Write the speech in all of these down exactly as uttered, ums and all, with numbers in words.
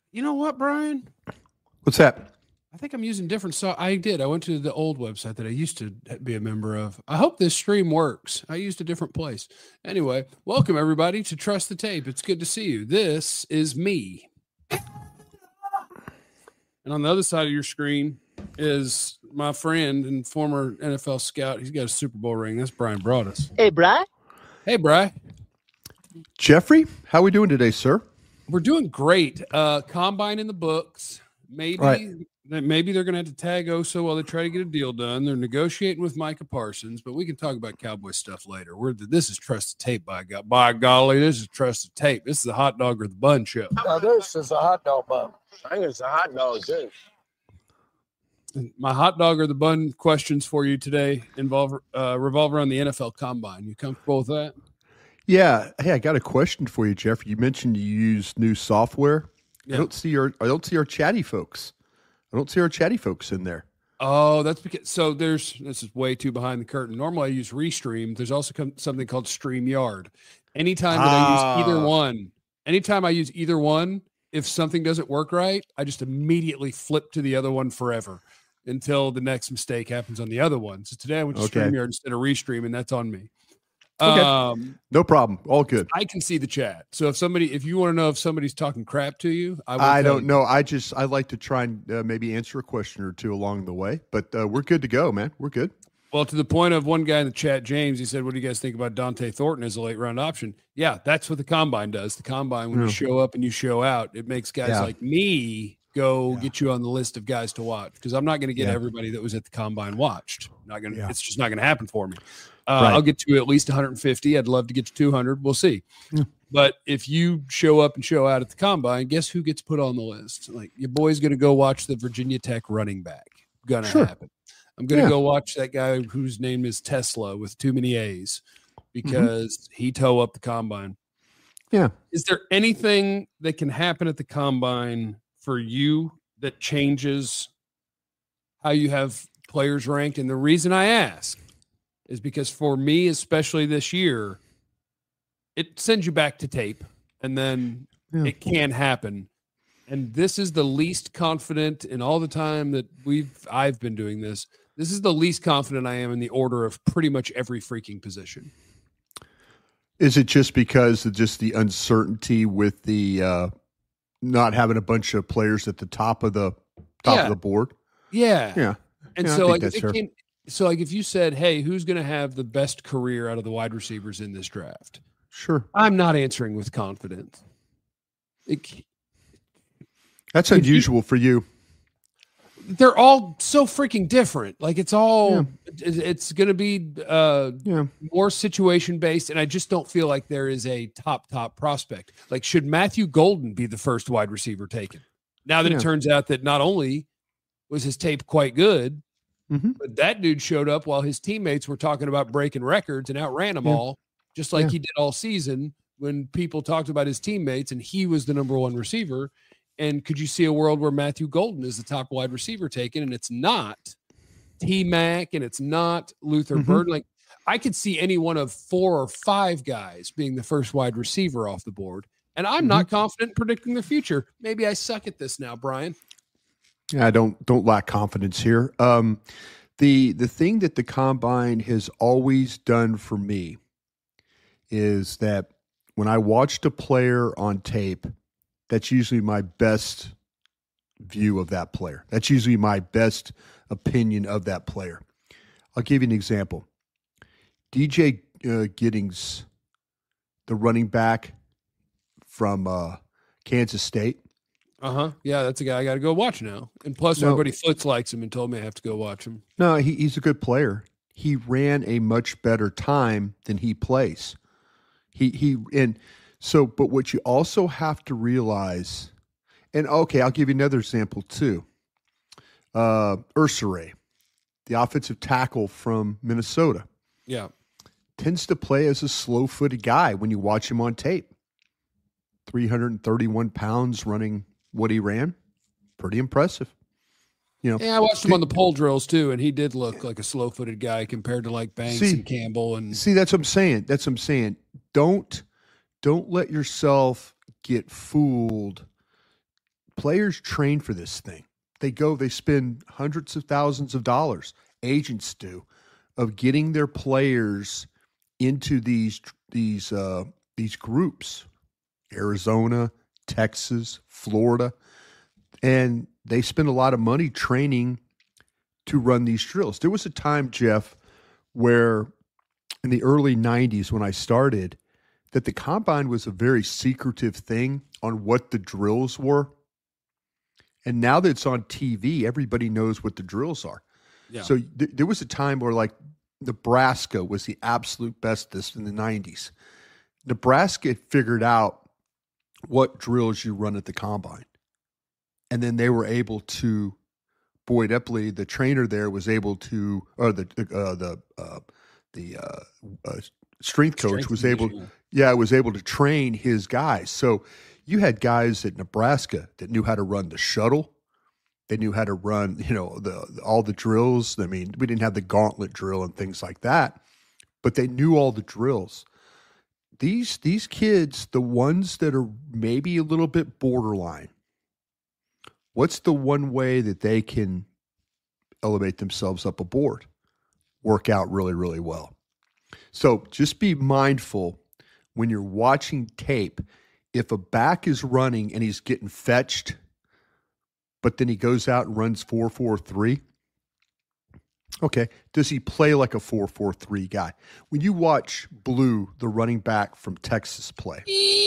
You know what, Brian? What's that? I think I'm using different so I did. I went to the old website that I used to be a member of. I hope this stream works. I used a different place. Anyway, welcome everybody to Trust the Tape. It's good to see you. This is me. And on the other side of your screen is my friend and former N F L scout. He's got a Super Bowl ring. That's Brian Broaddus. Hey, Bri. Hey, Bri. Jeffrey, how we doing today, sir? We're doing great. Uh, combine in the books. Maybe right. maybe they're going to have to tag Oso while they try to get a deal done. They're negotiating with Micah Parsons, but we can talk about Cowboy stuff later. We're this is Trust the Tape, by God, by golly, this is Trust the Tape. This is the hot dog or the bun show. No, this is a hot dog bun. I think it's a hot dog too. My hot dog or the bun questions for you today involve uh, revolve around the N F L Combine. You comfortable with that? Yeah. Hey, I got a question for you, Jeffrey. You mentioned you use new software. Yeah. I don't see our I don't see our chatty folks. I don't see our chatty folks in there. Oh, that's because so there's this is way too behind the curtain. Normally I use Restream. There's also come, something called StreamYard. Anytime that ah. I use either one, anytime I use either one, if something doesn't work right, I just immediately flip to the other one forever until the next mistake happens on the other one. So today I went to okay. StreamYard instead of Restream, and that's on me. Okay. Um, no problem. All good. I can see the chat. So if somebody, if you want to know if somebody's talking crap to you, I, will I don't you. know. I just, I like to try and uh, maybe answer a question or two along the way, but uh, we're good to go, man. We're good. Well, to the point of one guy in the chat, James, he said, what do you guys think about Dante Thornton as a late round option? Yeah, that's what the combine does. The combine, when yeah. you show up and you show out, it makes guys yeah. like me go yeah. get you on the list of guys to watch, because I'm not going to get yeah. everybody that was at the combine watched. Not going to, yeah. it's just not going to happen for me. Uh, right. I'll get to at least one hundred fifty. I'd love to get to two hundred. We'll see. Yeah. But if you show up and show out at the combine, guess who gets put on the list? Like, your boy's going to go watch the Virginia Tech running back. Gonna sure. happen. I'm going to yeah. go watch that guy whose name is Tesla with too many A's because mm-hmm. he toe up the combine. Yeah. Is there anything that can happen at the combine for you that changes how you have players ranked? And the reason I ask is because for me, especially this year, it sends you back to tape, and then yeah. it can happen. And this is the least confident in all the time that we've I've been doing this. This is the least confident I am in the order of pretty much every freaking position. Is it just because of just the uncertainty with the uh, not having a bunch of players at the top of the top yeah. of the board? Yeah, yeah. And yeah, so, like, if it came, so like if you said, "Hey, who's going to have the best career out of the wide receivers in this draft?" Sure, I'm not answering with confidence. It, That's unusual you, for you. They're all so freaking different. Like, it's all, yeah. it, it's going to be uh, yeah. more situation based. And I just don't feel like there is a top, top prospect. Like, should Matthew Golden be the first wide receiver taken? Now that yeah. it turns out that not only was his tape quite good, mm-hmm. but that dude showed up while his teammates were talking about breaking records and outran them yeah. all, just like yeah. he did all season when people talked about his teammates and he was the number one receiver. And could you see a world where Matthew Golden is the top wide receiver taken, and it's not T-Mac and it's not Luther mm-hmm. Burden? Like, I could see any one of four or five guys being the first wide receiver off the board. And I'm mm-hmm. not confident in predicting their future. Maybe I suck at this now, Brian. Yeah, I don't don't lack confidence here. Um, the the thing that the combine has always done for me is that when I watched a player on tape, that's usually my best view of that player. That's usually my best opinion of that player. I'll give you an example. D J uh, Giddings, the running back from uh, Kansas State. Uh-huh. Yeah, that's a guy I got to go watch now. And plus, no, my buddy Foots likes him and told me I have to go watch him. No, he, he's a good player. He ran a much better time than he plays. He he and so, but what you also have to realize, and okay, I'll give you another example too. Uh, Ursare, the offensive tackle from Minnesota. Yeah. Tends to play as a slow-footed guy when you watch him on tape. three hundred thirty-one pounds running what he ran. Pretty impressive. You know, yeah, I watched him on the pole drills too, and he did look like a slow-footed guy compared to like Banks see, and Campbell. And see, that's what I'm saying. That's what I'm saying. Don't don't let yourself get fooled players train for this thing. They go, they spend hundreds of thousands of dollars, agents do, of getting their players into these these uh, these groups, Arizona, Texas, Florida, and they spend a lot of money training to run these drills. There was a time, Jeff, where in the early nineties when I started, that the combine was a very secretive thing on what the drills were. And now that it's on T V, everybody knows what the drills are. Yeah. So th- there was a time where like Nebraska was the absolute bestest in the nineties. Nebraska figured out what drills you run at the combine. And then they were able to, Boyd Epley, the trainer there, was able to, or the uh, the uh, the uh, uh, strength coach strength was able, yeah. yeah, was able to train his guys. So you had guys at Nebraska that knew how to run the shuttle. They knew how to run, you know, the all the drills. I mean, we didn't have the gauntlet drill and things like that, but they knew all the drills. These these kids, the ones that are maybe a little bit borderline, what's the one way that they can elevate themselves up a board? Work out really, really well. So just be mindful when you're watching tape. If a back is running and he's getting fetched, but then he goes out and runs four four three, okay, does he play like a four four three guy? When you watch Blue, the running back from Texas, play,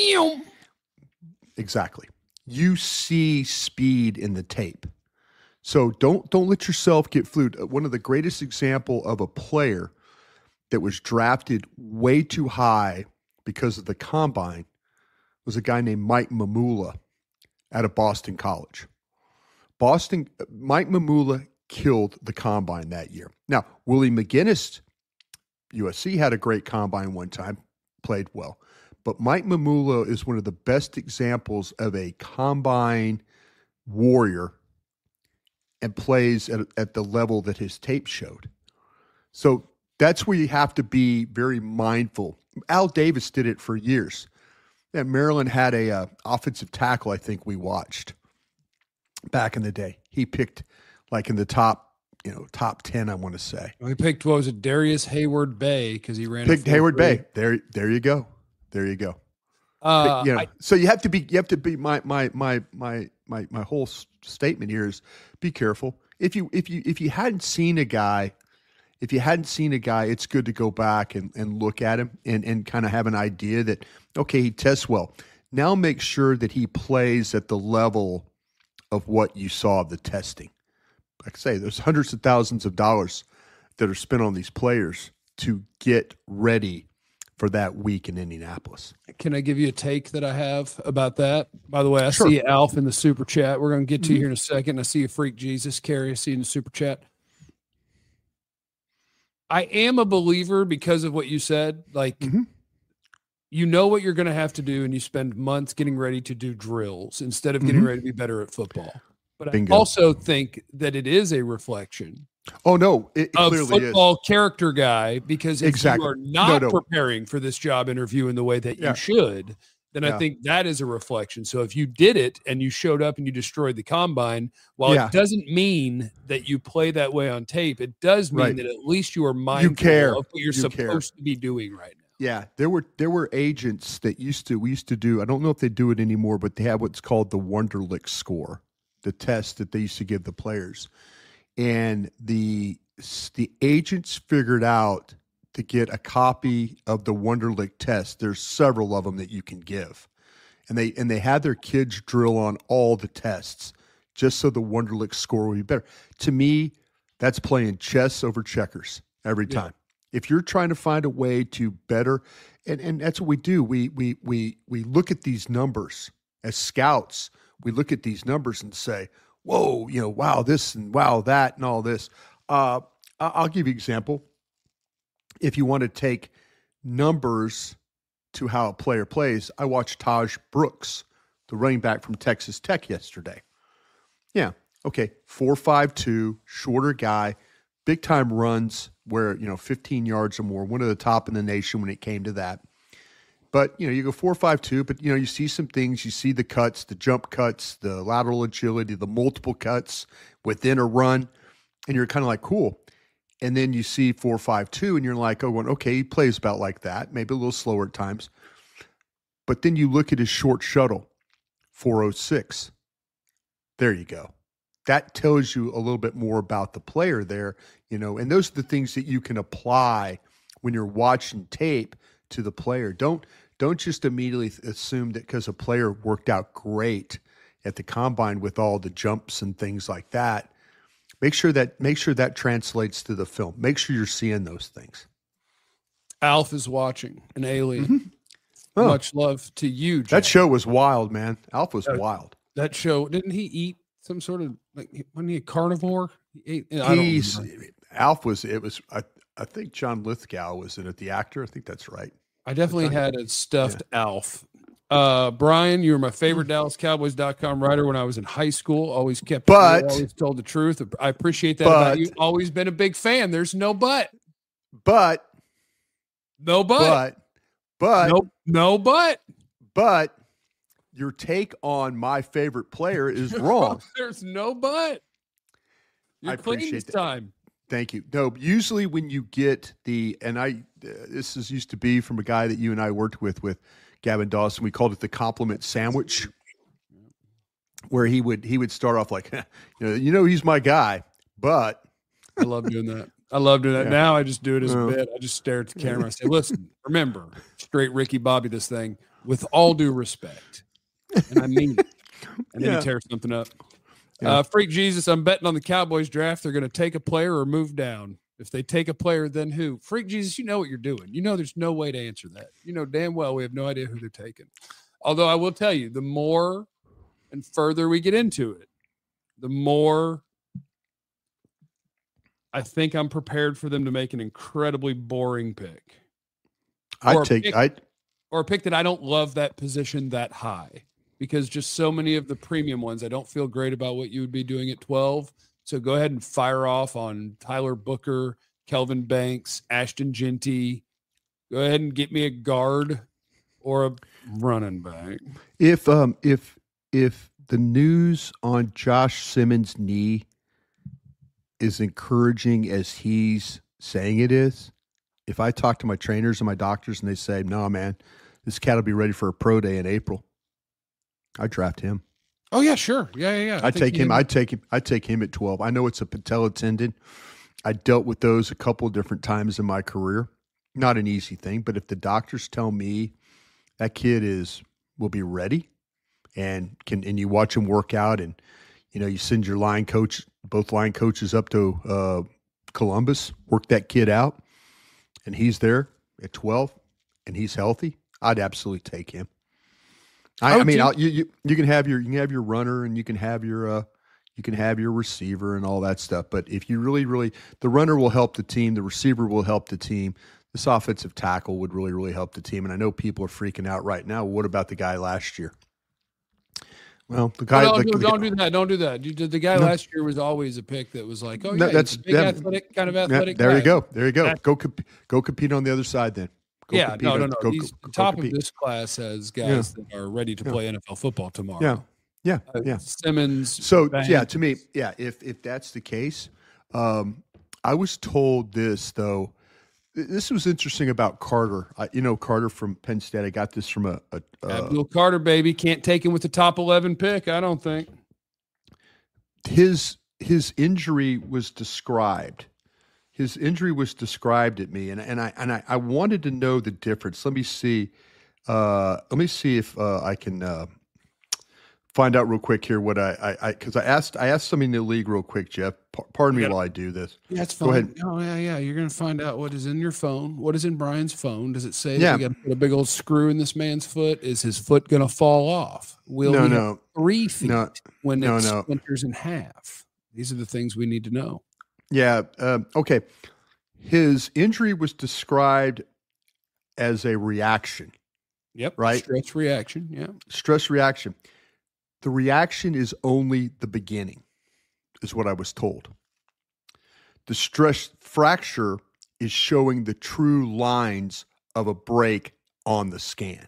exactly, you see speed in the tape. So don't don't let yourself get fooled. One of the greatest example of a player that was drafted way too high because of the combine was a guy named Mike Mamula out of Boston College. Boston, Mike Mamula killed the combine that year. Now, Willie McGinnis, U S C, had a great combine one time, played well. But Mike Mamula is one of the best examples of a combine warrior and plays at, at the level that his tape showed. So that's where you have to be very mindful. Al Davis did it for years. Yeah, Maryland had a uh, offensive tackle, I think we watched back in the day. He picked like in the top, you know, top ten, I want to say. Well, he picked, what was it, Darius Hayward Bay, because he ran. Picked Hayward Bay. There, there you go. There you go. Uh, but, you know, I, so you have to be. You have to be. My my my my my my whole statement here is be careful. If you if you if you hadn't seen a guy. If you hadn't seen a guy, it's good to go back and, and look at him and, and kind of have an idea that, okay, he tests well. Now make sure that he plays at the level of what you saw of the testing. Like I say, there's hundreds of thousands of dollars that are spent on these players to get ready for that week in Indianapolis. Can I give you a take that I have about that? By the way, I sure. see Alf in the super chat. We're going to get to mm-hmm. you here in a second. I see you, Freak Jesus. Carrie, I see you in the super chat. I am a believer because of what you said. Like, mm-hmm. you know what you're going to have to do, and you spend months getting ready to do drills instead of getting mm-hmm. ready to be better at football. But Bingo. I also think that it is a reflection. Oh, no, it, it of clearly football is. character guy, because if exactly. you are not no, no. preparing for this job interview in the way that yeah. you should, then yeah. I think that is a reflection. So if you did it and you showed up and you destroyed the combine, while yeah. it doesn't mean that you play that way on tape, it does mean right. that at least you are mindful you care. of what you're you supposed care. to be doing right now. Yeah, there were there were agents that used to we used to do. I don't know if they do it anymore, but they have what's called the Wonderlic score, the test that they used to give the players, and the the agents figured out to get a copy of the Wonderlic test. There's several of them that you can give. And they and they had their kids drill on all the tests just so the Wonderlic score would be better. To me, that's playing chess over checkers every time. Yeah. If you're trying to find a way to better, and, and that's what we do. We we we we look at these numbers as scouts. We look at these numbers and say, whoa, you know, wow, this and wow, that and all this. Uh, I'll give you an example. If you want to take numbers to how a player plays, I watched Taj Brooks, the running back from Texas Tech, yesterday. Yeah, okay, four five two, shorter guy, big time runs where, you know, fifteen yards or more, one of the top in the nation when it came to that. But, you know, you go four five two, but, you know, you see some things. You see the cuts, the jump cuts, the lateral agility, the multiple cuts within a run, and you're kind of like, cool. And then you see four five two, and you're like, oh, well, okay, he plays about like that, maybe a little slower at times. But then you look at his short shuttle, four oh six. There you go. That tells you a little bit more about the player there, you know, and those are the things that you can apply when you're watching tape to the player. Don't don't just immediately assume that because a player worked out great at the combine with all the jumps and things like that. Make sure that make sure that translates to the film. Make sure you're seeing those things. Alf is watching, an alien. Mm-hmm. Oh. Much love to you, Jack. That show was wild, man. Alf was that, wild. That show, didn't he eat some sort of, like, wasn't he a carnivore? He ate, I He's, don't remember. Alf was, it was, I, I think John Lithgow was in it, the actor. I think that's right. I definitely had a stuffed yeah. Alf. Uh, Brian, you were my favorite Dallas Cowboys dot com writer when I was in high school. Always kept, but, always told the truth. I appreciate that but, about you. Always been a big fan. There's no but. But. No but. But. But. No, no but. But your take on my favorite player is wrong. There's no but. You're I appreciate this that. time. Thank you. No, usually when you get the, and I, uh, this is used to be from a guy that you and I worked with, with Gavin Dawson. We called it the compliment sandwich, where he would, he would start off like, you know, you know, he's my guy, but. I love doing that. I love doing that. Yeah. Now I just do it as a uh, bit. I just stare at the camera. I say, listen, remember, straight Ricky Bobby this thing with all due respect. And I mean it. And then yeah. he tears something up. Yeah. Uh, Freak Jesus, I'm betting on the Cowboys draft. They're going to take a player or move down. If they take a player, then who? Freak Jesus, you know what you're doing. You know there's no way to answer that. You know damn well we have no idea who they're taking. Although I will tell you, the more and further we get into it, the more I think I'm prepared for them to make an incredibly boring pick. I take pick, I or a pick that I don't love that position that high, because just so many of the premium ones, I don't feel great about what you would be doing at twelve. So go ahead and fire off on Tyler Booker, Kelvin Banks, Ashton Genty. Go ahead and get me a guard or a running back. If um if if the news on Josh Simmons' knee is encouraging as he's saying it is, if I talk to my trainers and my doctors and they say, no, man, this cat will be ready for a pro day in April, I draft him. Oh yeah, sure. Yeah, yeah, yeah. I take him. I take him. I take him at twelve. I know it's a patella tendon. I dealt with those a couple of different times in my career. Not an easy thing, but if the doctors tell me that kid is will be ready and can, and you watch him work out, and you know you send your line coach, both line coaches up to uh, Columbus, work that kid out, and he's there at twelve and he's healthy, I'd absolutely take him. I, I mean, I'll, you, you you can have your you can have your runner and you can have your uh, you can have your receiver and all that stuff. But if you really, really, the runner will help the team, the receiver will help the team. This offensive tackle would really, really help the team. And I know people are freaking out right now. What about the guy last year? Well, the guy. No, no, the, no, the, don't do that. Don't do that. You, the guy no. last year was always a pick that was like, oh yeah, no, that's big that, athletic kind of athletic. Yeah, there guy. you go. There you go. That's, go comp- go compete on the other side then. Go yeah, no, no, no. Go, He's go, top go of this class has guys yeah. that are ready to yeah. play N F L football tomorrow. Yeah, yeah, uh, yeah. Simmons. So Banks. yeah, to me, yeah. If if that's the case, um, I was told this though. This was interesting about Carter. I, you know, Carter from Penn State. I got this from a, a, a Abdul Carter, baby. Can't take him with the top eleven pick. I don't think his his injury was described. His injury was described at me, and and I and I, I wanted to know the difference. Let me see. Uh, let me see if uh, I can uh, find out real quick here what I I because I, I asked I asked somebody in the league real quick, Jeff. P- pardon me gotta, while I do this. That's fine. Go ahead. Oh yeah, yeah. You're gonna find out what is in your phone. What is in Brian's phone? Does it say yeah. that you got to put a big old screw in this man's foot? Is his foot gonna fall off? Will no, he no, have three feet no, when no, it no. splinters in half? These are the things we need to know. Yeah. Uh, okay. His injury was described as a reaction. Yep. Right. Stress reaction. Yeah. Stress reaction. The reaction is only the beginning, is what I was told. The stress fracture is showing the true lines of a break on the scan.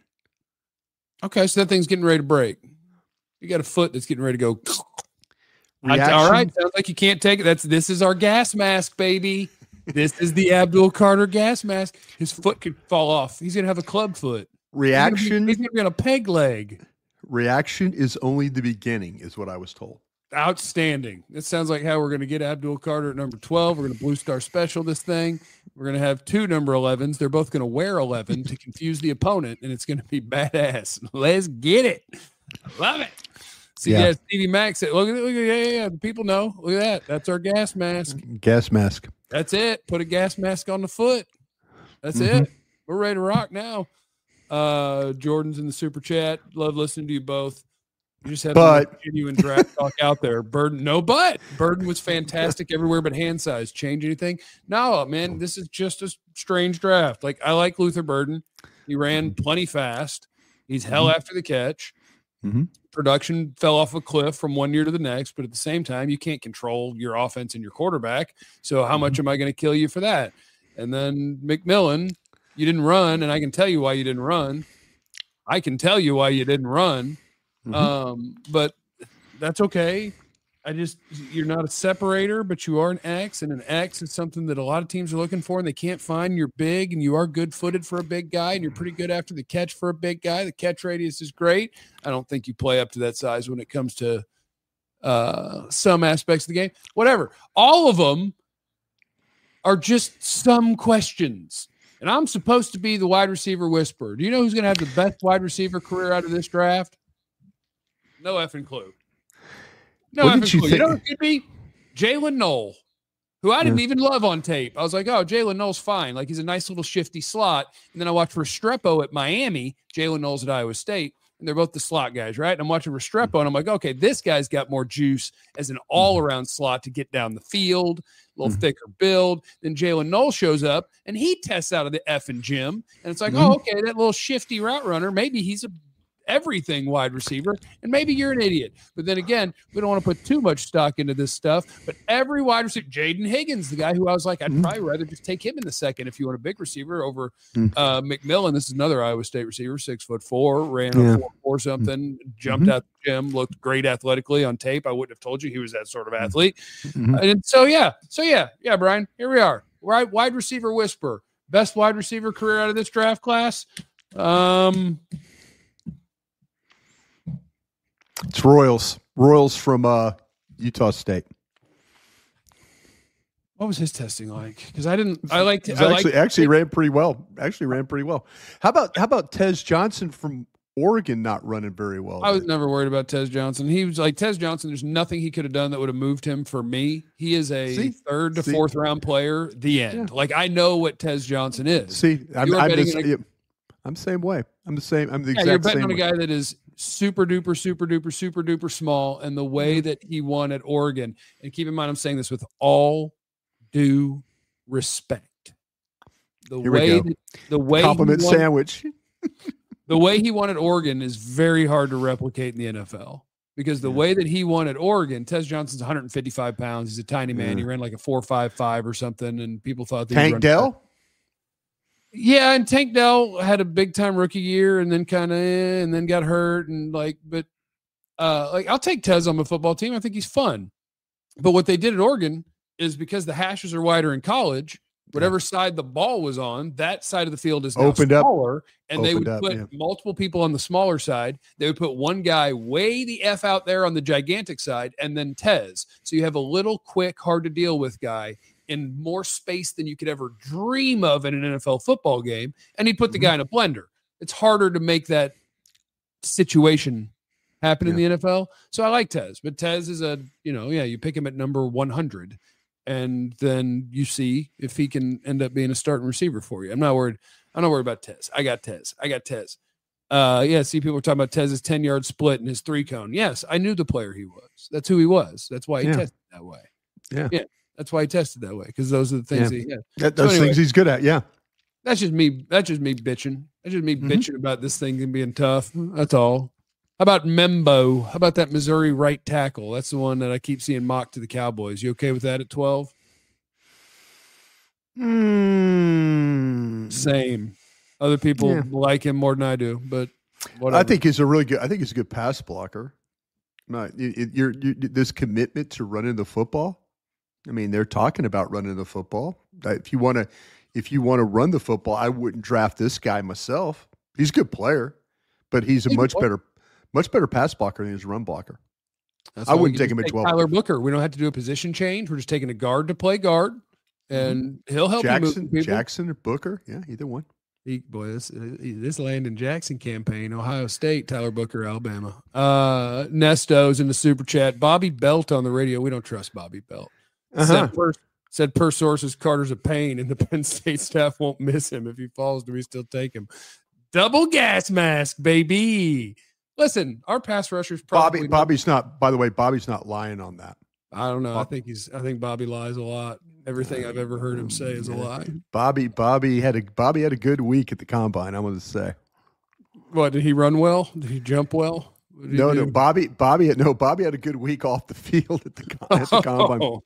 Okay, so that thing's getting ready to break. You got a foot that's getting ready to go. Reaction, all right, sounds like you can't take it. That's this is our gas mask, baby. This is the Abdul Carter gas mask. His foot could fall off. He's gonna have a club foot. Reaction. He's gonna be on a peg leg. Reaction is only the beginning, is what I was told. Outstanding. That sounds like how we're going to get Abdul Carter at number twelve. We're going to Blue Star Special this thing. We're going to have two number elevens. They're both going to wear eleven to confuse the opponent, and it's going to be badass. Let's get it. Love it. See, yeah, Stevie Mack said, look at it. Look at it. Yeah, yeah, yeah. The people know. Look at that. That's our gas mask. Gas mask. That's it. Put a gas mask on the foot. That's mm-hmm. it. We're ready to rock now. Uh, Jordan's in the super chat. Love listening to you both. You just have but genuine draft talk out there. Burden, no, but Burden was fantastic everywhere but hand size. Change anything? No, man. This is just a strange draft. Like, I like Luther Burden. He ran plenty fast. He's hell mm-hmm. after the catch. Mm-hmm. Production fell off a cliff from one year to the next, but at the same time, you can't control your offense and your quarterback. So, how mm-hmm. much am I going to kill you for that? And then McMillan, you didn't run, and I can tell you why you didn't run. I can tell you why you didn't run. Mm-hmm. Um, but that's okay. I just, you're not a separator, but you are an X, and an X is something that a lot of teams are looking for and they can't find. You're big and you are good footed for a big guy, and you're pretty good after the catch for a big guy. The catch radius is great. I don't think you play up to that size when it comes to uh, some aspects of the game, whatever. All of them are just some questions. And I'm supposed to be the wide receiver whisperer. Do you know who's going to have the best wide receiver career out of this draft? No effing clue. No what effing you clue. Think? You know what it could be? Jalen Knoll, who I didn't yeah. even love on tape. I was like, oh, Jalen Knoll's fine. Like, he's a nice little shifty slot. And then I watched Restrepo at Miami, Jalen Knoll's at Iowa State, and they're both the slot guys, right? And I'm watching Restrepo, and I'm like, okay, this guy's got more juice as an all-around slot to get down the field, a little mm-hmm. thicker build. Then Jalen Knoll shows up, and he tests out of the effing gym. And it's like, mm-hmm. oh, okay, that little shifty route runner, maybe he's a everything wide receiver, and maybe you're an idiot. But then again, we don't want to put too much stock into this stuff. But every wide receiver, Jaden Higgins, the guy who I was like, I'd mm-hmm. probably rather just take him in the second if you want a big receiver over mm-hmm. uh, McMillan. This is another Iowa State receiver, six foot four, ran yeah. a four, four something, mm-hmm. jumped out the gym, looked great athletically on tape. I wouldn't have told you he was that sort of athlete. Mm-hmm. And so yeah, so yeah, yeah, Brian, here we are. Right, wide receiver whisper, best wide receiver career out of this draft class. Um. It's Royals. Royals from uh, Utah State. What was his testing like? Because I didn't. I liked. I actually liked, actually ran pretty well. Actually ran pretty well. How about how about Tez Johnson from Oregon not running very well? I was there? never worried about Tez Johnson. He was like Tez Johnson. There's nothing he could have done that would have moved him for me. He is a See? third to See? fourth round player. The end. Yeah. Like, I know what Tez Johnson is. See, I'm, I'm, just, a, I'm the same way. I'm the same. I'm the yeah, exact you're betting same on a way. guy that is super duper, super duper, super duper small, and the way that he won at Oregon. And keep in mind, I'm saying this with all due respect. The Here way, that, the way compliment won, sandwich. the way he won at Oregon is very hard to replicate in the N F L, because the yeah. way that he won at Oregon, Tez Johnson's one hundred fifty-five pounds. He's a tiny man. Yeah. He ran like a four five five or something, and people thought that Tank Dell. Yeah, and Tank Dell had a big time rookie year, and then kind of, eh, and then got hurt, and like, but uh, like I'll take Tez on my football team. I think he's fun. But what they did at Oregon is, because the hashes are wider in college, whatever yeah. side the ball was on, that side of the field is now opened smaller, up, and they would up, put yeah. multiple people on the smaller side. They would put one guy way the F out there on the gigantic side, and then Tez. So you have a little quick, hard to deal with guy in more space than you could ever dream of in an N F L football game, and he'd put the guy in a blender. It's harder to make that situation happen yeah. in the N F L. So I like Tez, but Tez is a, you know, yeah, you pick him at number one hundred, and then you see if he can end up being a starting receiver for you. I'm not worried. I'm not worried about Tez. I got Tez. I got Tez. Uh, yeah, see, people are talking about Tez's ten-yard split and his three-cone. Yes, I knew the player he was. That's who he was. That's why he yeah. tested that way. Yeah. Yeah. That's why he tested that way, because those are the things yeah. he had. That, those so anyway, things he's good at, yeah. That's just me. That's just me bitching. That's just me mm-hmm. bitching about this thing and being tough. That's all. How about Membo? How about that Missouri right tackle? That's the one that I keep seeing mocked to the Cowboys. You okay with that at twelve? Mm. Same. Other people Yeah. like him more than I do, but whatever. I think he's a really good. I think he's a good pass blocker. Not it, it, you're, you this commitment to running the football. I mean, they're talking about running the football. If you want to, if you want to run the football, I wouldn't draft this guy myself. He's a good player, but he's a He's much good. better, much better pass blocker than he's a run blocker. That's I why we wouldn't can take him just at twelve. Tyler Booker. We don't have to do a position change. We're just taking a guard to play guard, and he'll help you Jackson, move people. Jackson, or Booker, yeah, either one. He, boy, this this Landon Jackson campaign, Ohio State, Tyler Booker, Alabama. Uh, Nesto's in the super chat. Bobby Belt on the radio. We don't trust Bobby Belt. Uh-huh. Said, per, said per sources, Carter's a pain, and the Penn State staff won't miss him. If he falls, do we still take him? Double gas mask, baby. Listen, our pass rushers probably. Bobby, Bobby's not. By the way, Bobby's not lying on that. I don't know. I think he's. I think Bobby lies a lot. Everything I've ever heard him say is a lie. Bobby, Bobby had a Bobby had a good week at the combine. I'm going to say. What, did he run well? Did he jump well? What did he No, do? no, Bobby, Bobby, had, no, Bobby had a good week off the field at the, at the combine. Oh.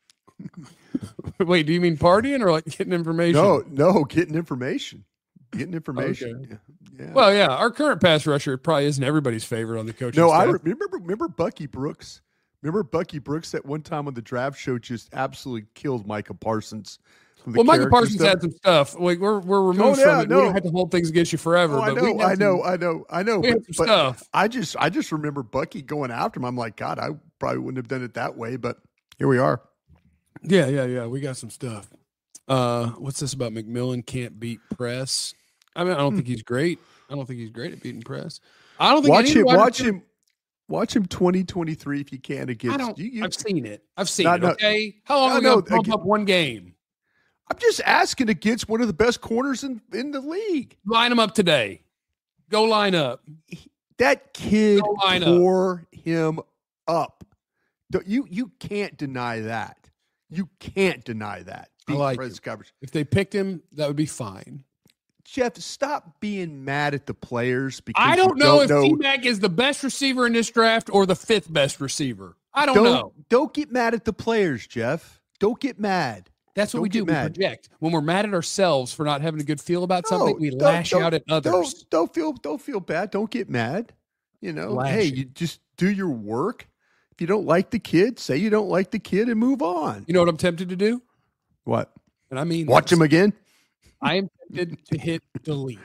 Wait, do you mean partying or like getting information? No, no, getting information, getting information. Okay. Yeah, yeah. Well, yeah, our current pass rusher probably isn't everybody's favorite on the coaching no, staff. I remember. Remember Bucky Brooks. Remember Bucky Brooks that one time on the draft show just absolutely killed Micah Parsons. from the Well, Micah character Parsons stuff. had some stuff. Like we're we're removed Oh, yeah, from it. no. We don't have to hold things against you forever. Oh, I but we know, had I know, some- I know, I know. We But, had some but stuff. I just, I just remember Bucky going after him. I'm like, God, I probably wouldn't have done it that way, but here we are. Yeah, yeah, yeah. We got some stuff. Uh, what's this about McMillan can't beat press? I mean, I don't think he's great. I don't think he's great at beating press. I don't think Watch any him, wide watch receiver- him, watch him. twenty twenty-three if you can I against don't. you. you I've seen it. I've seen No, it. no. Okay. How long No, are we no, gonna pump again- up one game? I'm just asking against one of the best corners in, in the league. Line them up today. Go line up. That kid Go line up. tore him up. Don't- You you can't deny that. You can't deny that. I Beat like press it. coverage. If they picked him, that would be fine. Jeff, stop being mad at the players because I you don't know don't if T-Mac is the best receiver in this draft or the fifth best receiver. I don't, don't know. Don't get mad at the players, Jeff. Don't get mad. That's what don't we do. get We mad. project. When we're mad at ourselves for not having a good feel about something, No, we don't- lash don't- out at others. Don't, don't feel don't feel bad. Don't get mad. You know, Lash hey, it. you just do your work. If you don't like the kid, say you don't like the kid and move on. You know what I'm tempted to do? What? And I mean, Watch this. him again? I am tempted to hit delete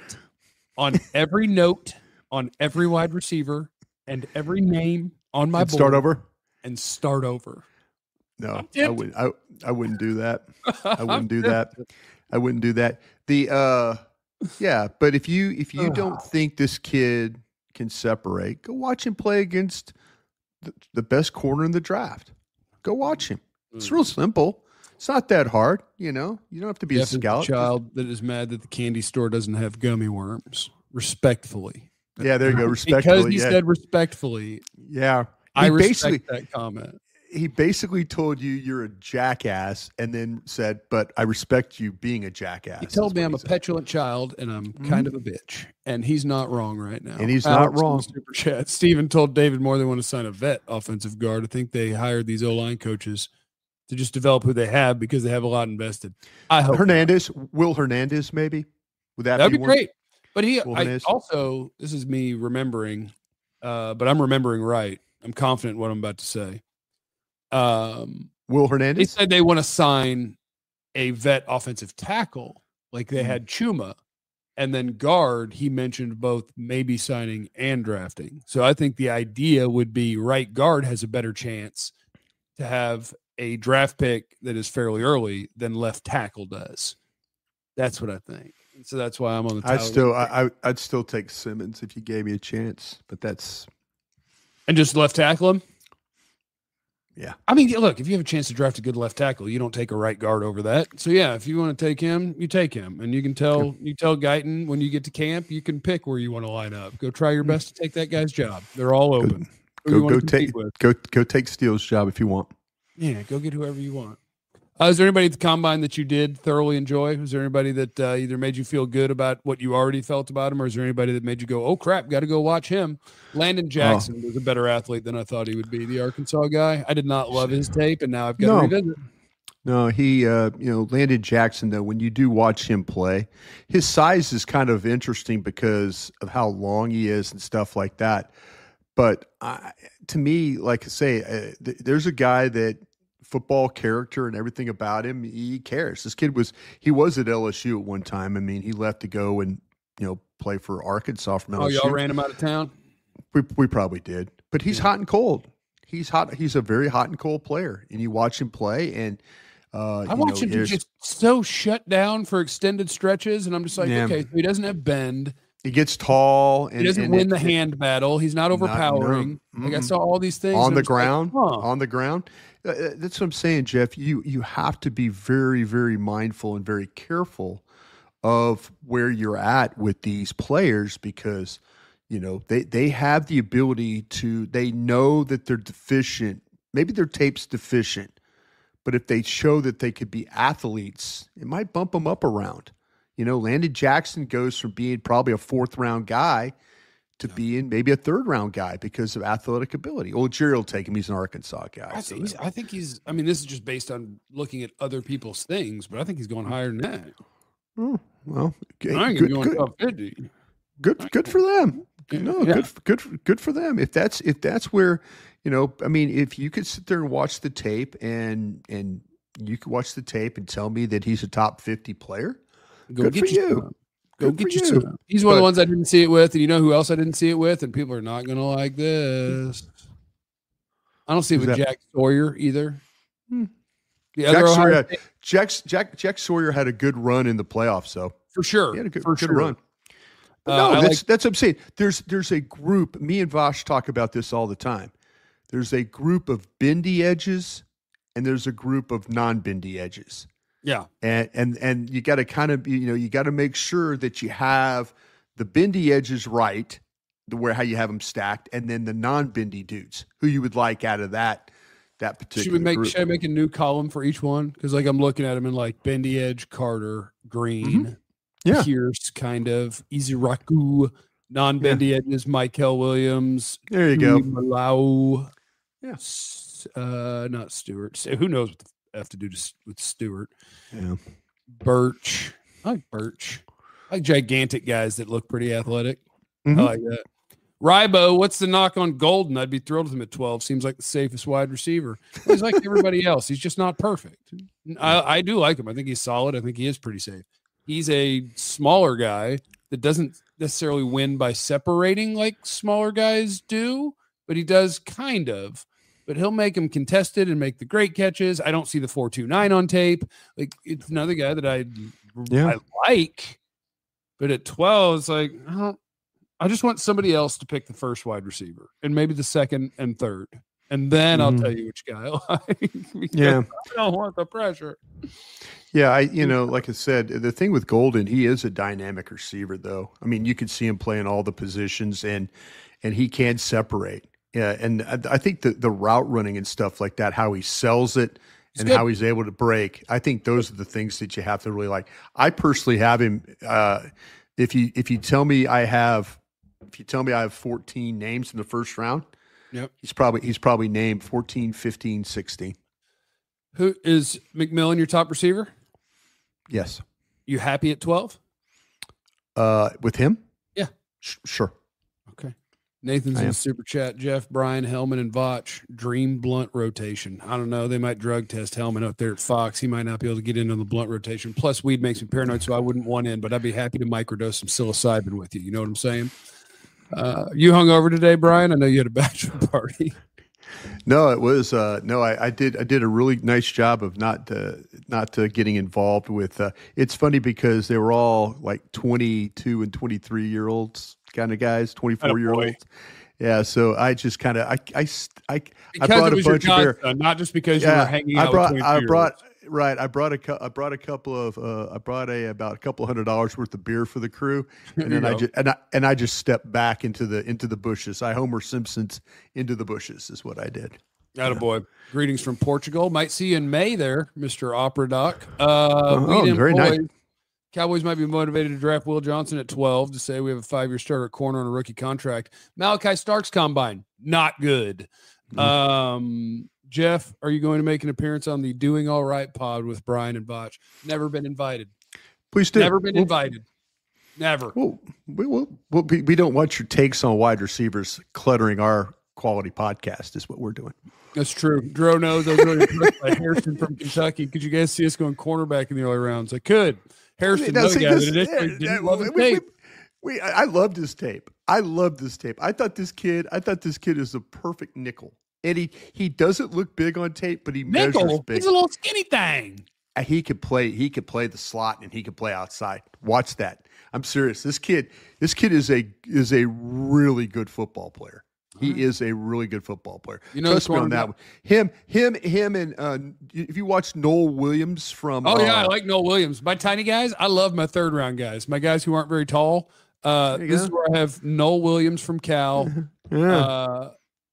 on every note, on every wide receiver, and every name on my And board. start over? and start over. No, I'm I tempted. wouldn't. I, I wouldn't do that. I wouldn't do that. I wouldn't do that. The uh, yeah. But if you if you don't think this kid can separate, go watch him play against the, the best corner in the draft. Go watch him. It's real simple. It's not that hard. You know, you don't have to be Jeff a is the scout. child that is mad that the candy store doesn't have gummy worms. Respectfully, Yeah, there you go. Respectfully. because he yeah. said respectfully. yeah. I He respect basically that comment. he basically told you you're a jackass, and then said, "But I respect you being a jackass." He told is me what I'm he a said. petulant child and I'm kind of a bitch, and he's not wrong right now. And he's Alex not in the wrong. Super chat. Steven told David Moore they want to sign a vet offensive guard. I think they hired these O line coaches to just develop who they have because they have a lot invested. I hope Hernandez, Will Hernandez, maybe. Would that that'd be one? great. But he Will I, Hernandez. also, this is me remembering, uh, but I'm remembering right. I'm confident in what I'm about to say. Um, Will they Hernandez. said they want to sign a vet offensive tackle like they Mhm. had Chuma, and then guard. He mentioned both maybe signing and drafting. So I think the idea would be right guard has a better chance to have a draft pick that is fairly early than left tackle does. That's what I think. And so that's why I'm on the. I'd Tyler still, Lockett. I, I, I'd still take Simmons if you gave me a chance, but that's and just left tackle him. yeah. I mean, look, if you have a chance to draft a good left tackle, you don't take a right guard over that. So yeah, if you want to take him, you take him, and you can tell you tell Guyton when you get to camp, you can pick where you want to line up. Go try your best to take that guy's job. They're all open. Who you Go, wanna go compete take, with. go, go take Steele's job if you want. Yeah, go get whoever you want. Uh, is there anybody at the combine that you did thoroughly enjoy? Was there anybody that uh, either made you feel good about what you already felt about him, or is there anybody that made you go, "Oh crap, got to go watch him"? Landon Jackson was a better athlete than I thought he would be. The Arkansas guy. I did not love his tape, and now I've got No. to revisit. No, he, uh, you know, Landon Jackson, though, when you do watch him play, his size is kind of interesting because of how long he is and stuff like that. But uh, to me, like I say, uh, th- there's a guy that football character and everything about him, he cares. This kid was, he was at L S U at one time. I mean, he left to go and, you know, play for Arkansas from L S U. Oh, y'all ran him out of town? We, we probably did. But he's Yeah. hot and cold. He's hot. He's a very hot and cold player. And you watch him play and, Uh, I watch him just so shut down for extended stretches, and I'm just like, yeah. okay, so he doesn't have bend. He gets tall. And he doesn't and win it, the it, hand battle. He's not overpowering. Not, no. Like I saw all these things on the ground. Like, huh. On the ground. Uh, that's what I'm saying, Jeff. You you have to be very very mindful and very careful of where you're at with these players because you know they they have the ability to. They know that they're deficient. Maybe their tape's deficient. But if they show that they could be athletes, it might bump them up around. You know, Landon Jackson goes from being probably a fourth round guy to yeah. being maybe a third round guy because of athletic ability. Old Jerry will take him. He's an Arkansas guy. I, so he's, I think he's, I mean, this is just based on looking at other people's things, but I think he's going higher than that. Oh, well, okay. I ain't good, going good. top fifty. Good, good for them. No, yeah. good, good, good for them. If that's if that's where, you know, I mean, if you could sit there and watch the tape and and you could watch the tape and tell me that he's a top fifty player, go good get for you. Some. Go good get you. you some. He's one but, of the ones I didn't see it with, and you know who else I didn't see it with, and people are not going to like this. I don't see it with that? Jack Sawyer either. Hmm. The Jack, Sawyer had, Jack, Jack, Jack Sawyer had a good run in the playoffs, so for sure, he had a good, for good sure. run. Uh, no, that's, like, that's what I'm saying. There's there's a group. Me and Vosh talk about this all the time. There's a group of bendy edges, and there's a group of non-bendy edges. Yeah, and and and you got to kind of you know you got to make sure that you have the bendy edges right, the where how you have them stacked, and then the non-bendy dudes who you would like out of that that particular. Should we make group. should I make a new column for each one? Because like I'm looking at them in like bendy edge, Carter, Green. Mm-hmm. Yeah. Pierce, kind of Iziraku, non-bendy yeah. edges, Michael Williams. There you go. Malau. Yeah. Uh, not Stewart. Who knows what the F to do to, with Stewart? Yeah. Birch. I like Birch. I like gigantic guys that look pretty athletic. Mm-hmm. I like that. Rybo, what's the knock on Golden? I'd be thrilled with him at twelve. Seems like the safest wide receiver. He's like everybody else. He's just not perfect. I, I do like him. I think he's solid. I think he is pretty safe. He's a smaller guy that doesn't necessarily win by separating like smaller guys do, but he does kind of. But he'll make them contested and make the great catches. I don't see the four two nine on tape. Like it's another guy that I, yeah. I like, but at twelve, it's like, oh, I just want somebody else to pick the first wide receiver and maybe the second and third. And then mm-hmm. I'll tell you which guy I like. Yeah. I don't want the pressure. Yeah, I you know, like I said, the thing with Golden, he is a dynamic receiver, though. I mean, you can see him playing all the positions, and and he can separate. Yeah, and I, I think the the route running and stuff like that, how he sells it, it's and good. How he's able to break. I think those are the things that you have to really like. I personally have him. Uh, if you if you tell me I have, if you tell me I have fourteen names in the first round, yep, he's probably he's probably named fourteen, fifteen, sixteen. Who is McMillan your top receiver? Yes. You happy at twelve? Uh, with him? Yeah. Sh- sure. Okay. Nathan's in the super chat. Jeff, Brian, Hellman, and Vach. Dream blunt rotation. I don't know. They might drug test Hellman up there at Fox. He might not be able to get into the blunt rotation. Plus, weed makes me paranoid, so I wouldn't want in, but I'd be happy to microdose some psilocybin with you. You know what I'm saying? Uh, you hung over today, Brian? I know you had a bachelor party. No, it was uh, no. I, I did. I did a really nice job of not uh, not uh, getting involved with. Uh, it's funny because they were all like twenty-two and twenty-three year olds kind of guys, twenty-four year olds. Yeah, so I just kind of I I I, I brought a bunch of beer, son, not just because yeah, you were hanging out. I brought with I brought right. I brought a I brought a couple of uh, I brought a about a couple hundred dollars worth of beer for the crew, and then I just and I and I just stepped back into the into the bushes. I Homer Simpson's into the bushes is what I did. Attaboy. Yeah. Greetings from Portugal. Might see you in May there, Mister Opera Doc. Uh, oh, very boys. nice. Cowboys might be motivated to draft Will Johnson at twelve to say we have a five-year starter at corner on a rookie contract. Malachi Starks combine, not good. Mm-hmm. Um, Jeff, are you going to make an appearance on the Doing All Right pod with Brian and Botch? Never been invited. Please do. Never been we'll, invited. Never. Well, we, we'll, we'll be, we don't want your takes on wide receivers cluttering our quality podcast is what we're doing. That's true. Dro knows I was really impressed by Harrison from Kentucky. Could you guys see us going cornerback in the early rounds? I could. Harrison, no guy, but initially didn't love his tape. We, we, I loved his tape. I loved this tape. I thought this kid, I thought this kid is a perfect nickel. And he, he doesn't look big on tape, but he nickel? measures big. He's a little skinny thing. He could play, he could play the slot and he could play outside. Watch that. I'm serious. This kid, this kid is a is a really good football player. He right. is a really good football player. You know, trust me on that one. Him, him, him, and uh, if you watch Noel Williams from, oh yeah, uh, I like Noel Williams. My tiny guys, I love my third round guys. My guys who aren't very tall. Uh, this go. is where I have Noel Williams from Cal. yeah. Uh,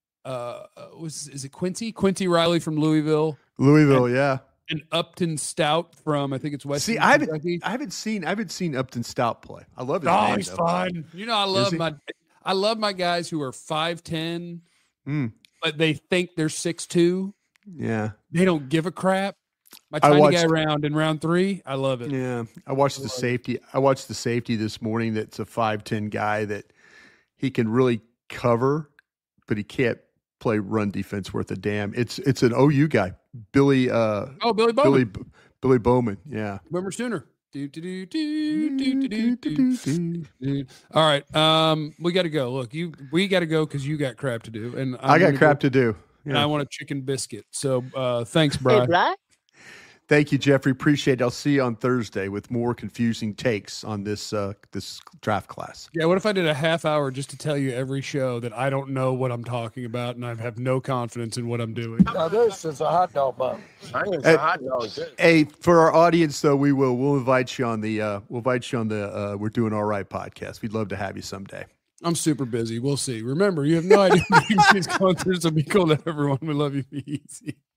uh, was is it Quincy? Quincy Riley from Louisville. Louisville, and, yeah. And Upton Stout from I think it's West. See, I haven't, I haven't seen, I haven't seen Upton Stout play. I love his Oh, name, he's though. fun. You know, I love my, I love my guys who are five ten, mm. but they think they're six two. Yeah, they don't give a crap. My tiny watched, guy round in round three, I love it. Yeah, I watched I the safety. It. I watched the safety this morning. That's a five ten guy that he can really cover, but he can't play run defense worth a damn. It's it's an O U guy, Billy. Uh, oh, Billy Bowman. Billy, Billy Bowman. Yeah. Remember Sooner. Do, do, do, do, do, do, do, do, do. All right, um, we got to go. Look, you, we got to go because you got crap to do, and I'm I got crap go, to do. Yeah. And I want a chicken biscuit. So, uh, thanks, Brian. Hey, Brian. Thank you, Jeffrey. Appreciate it. I'll see you on Thursday with more confusing takes on this uh, this draft class. Yeah, what if I did a half hour just to tell you every show that I don't know what I'm talking about and I have no confidence in what I'm doing? Now this is a hot dog bun. I think it's a hot dog too. Hey, for our audience though, we will we'll invite you on the uh, we'll invite you on the uh, We're Doing All Right podcast. We'd love to have you someday. I'm super busy. We'll see. Remember, you have no idea what is going through, so be cool to everyone. We love you. Be easy.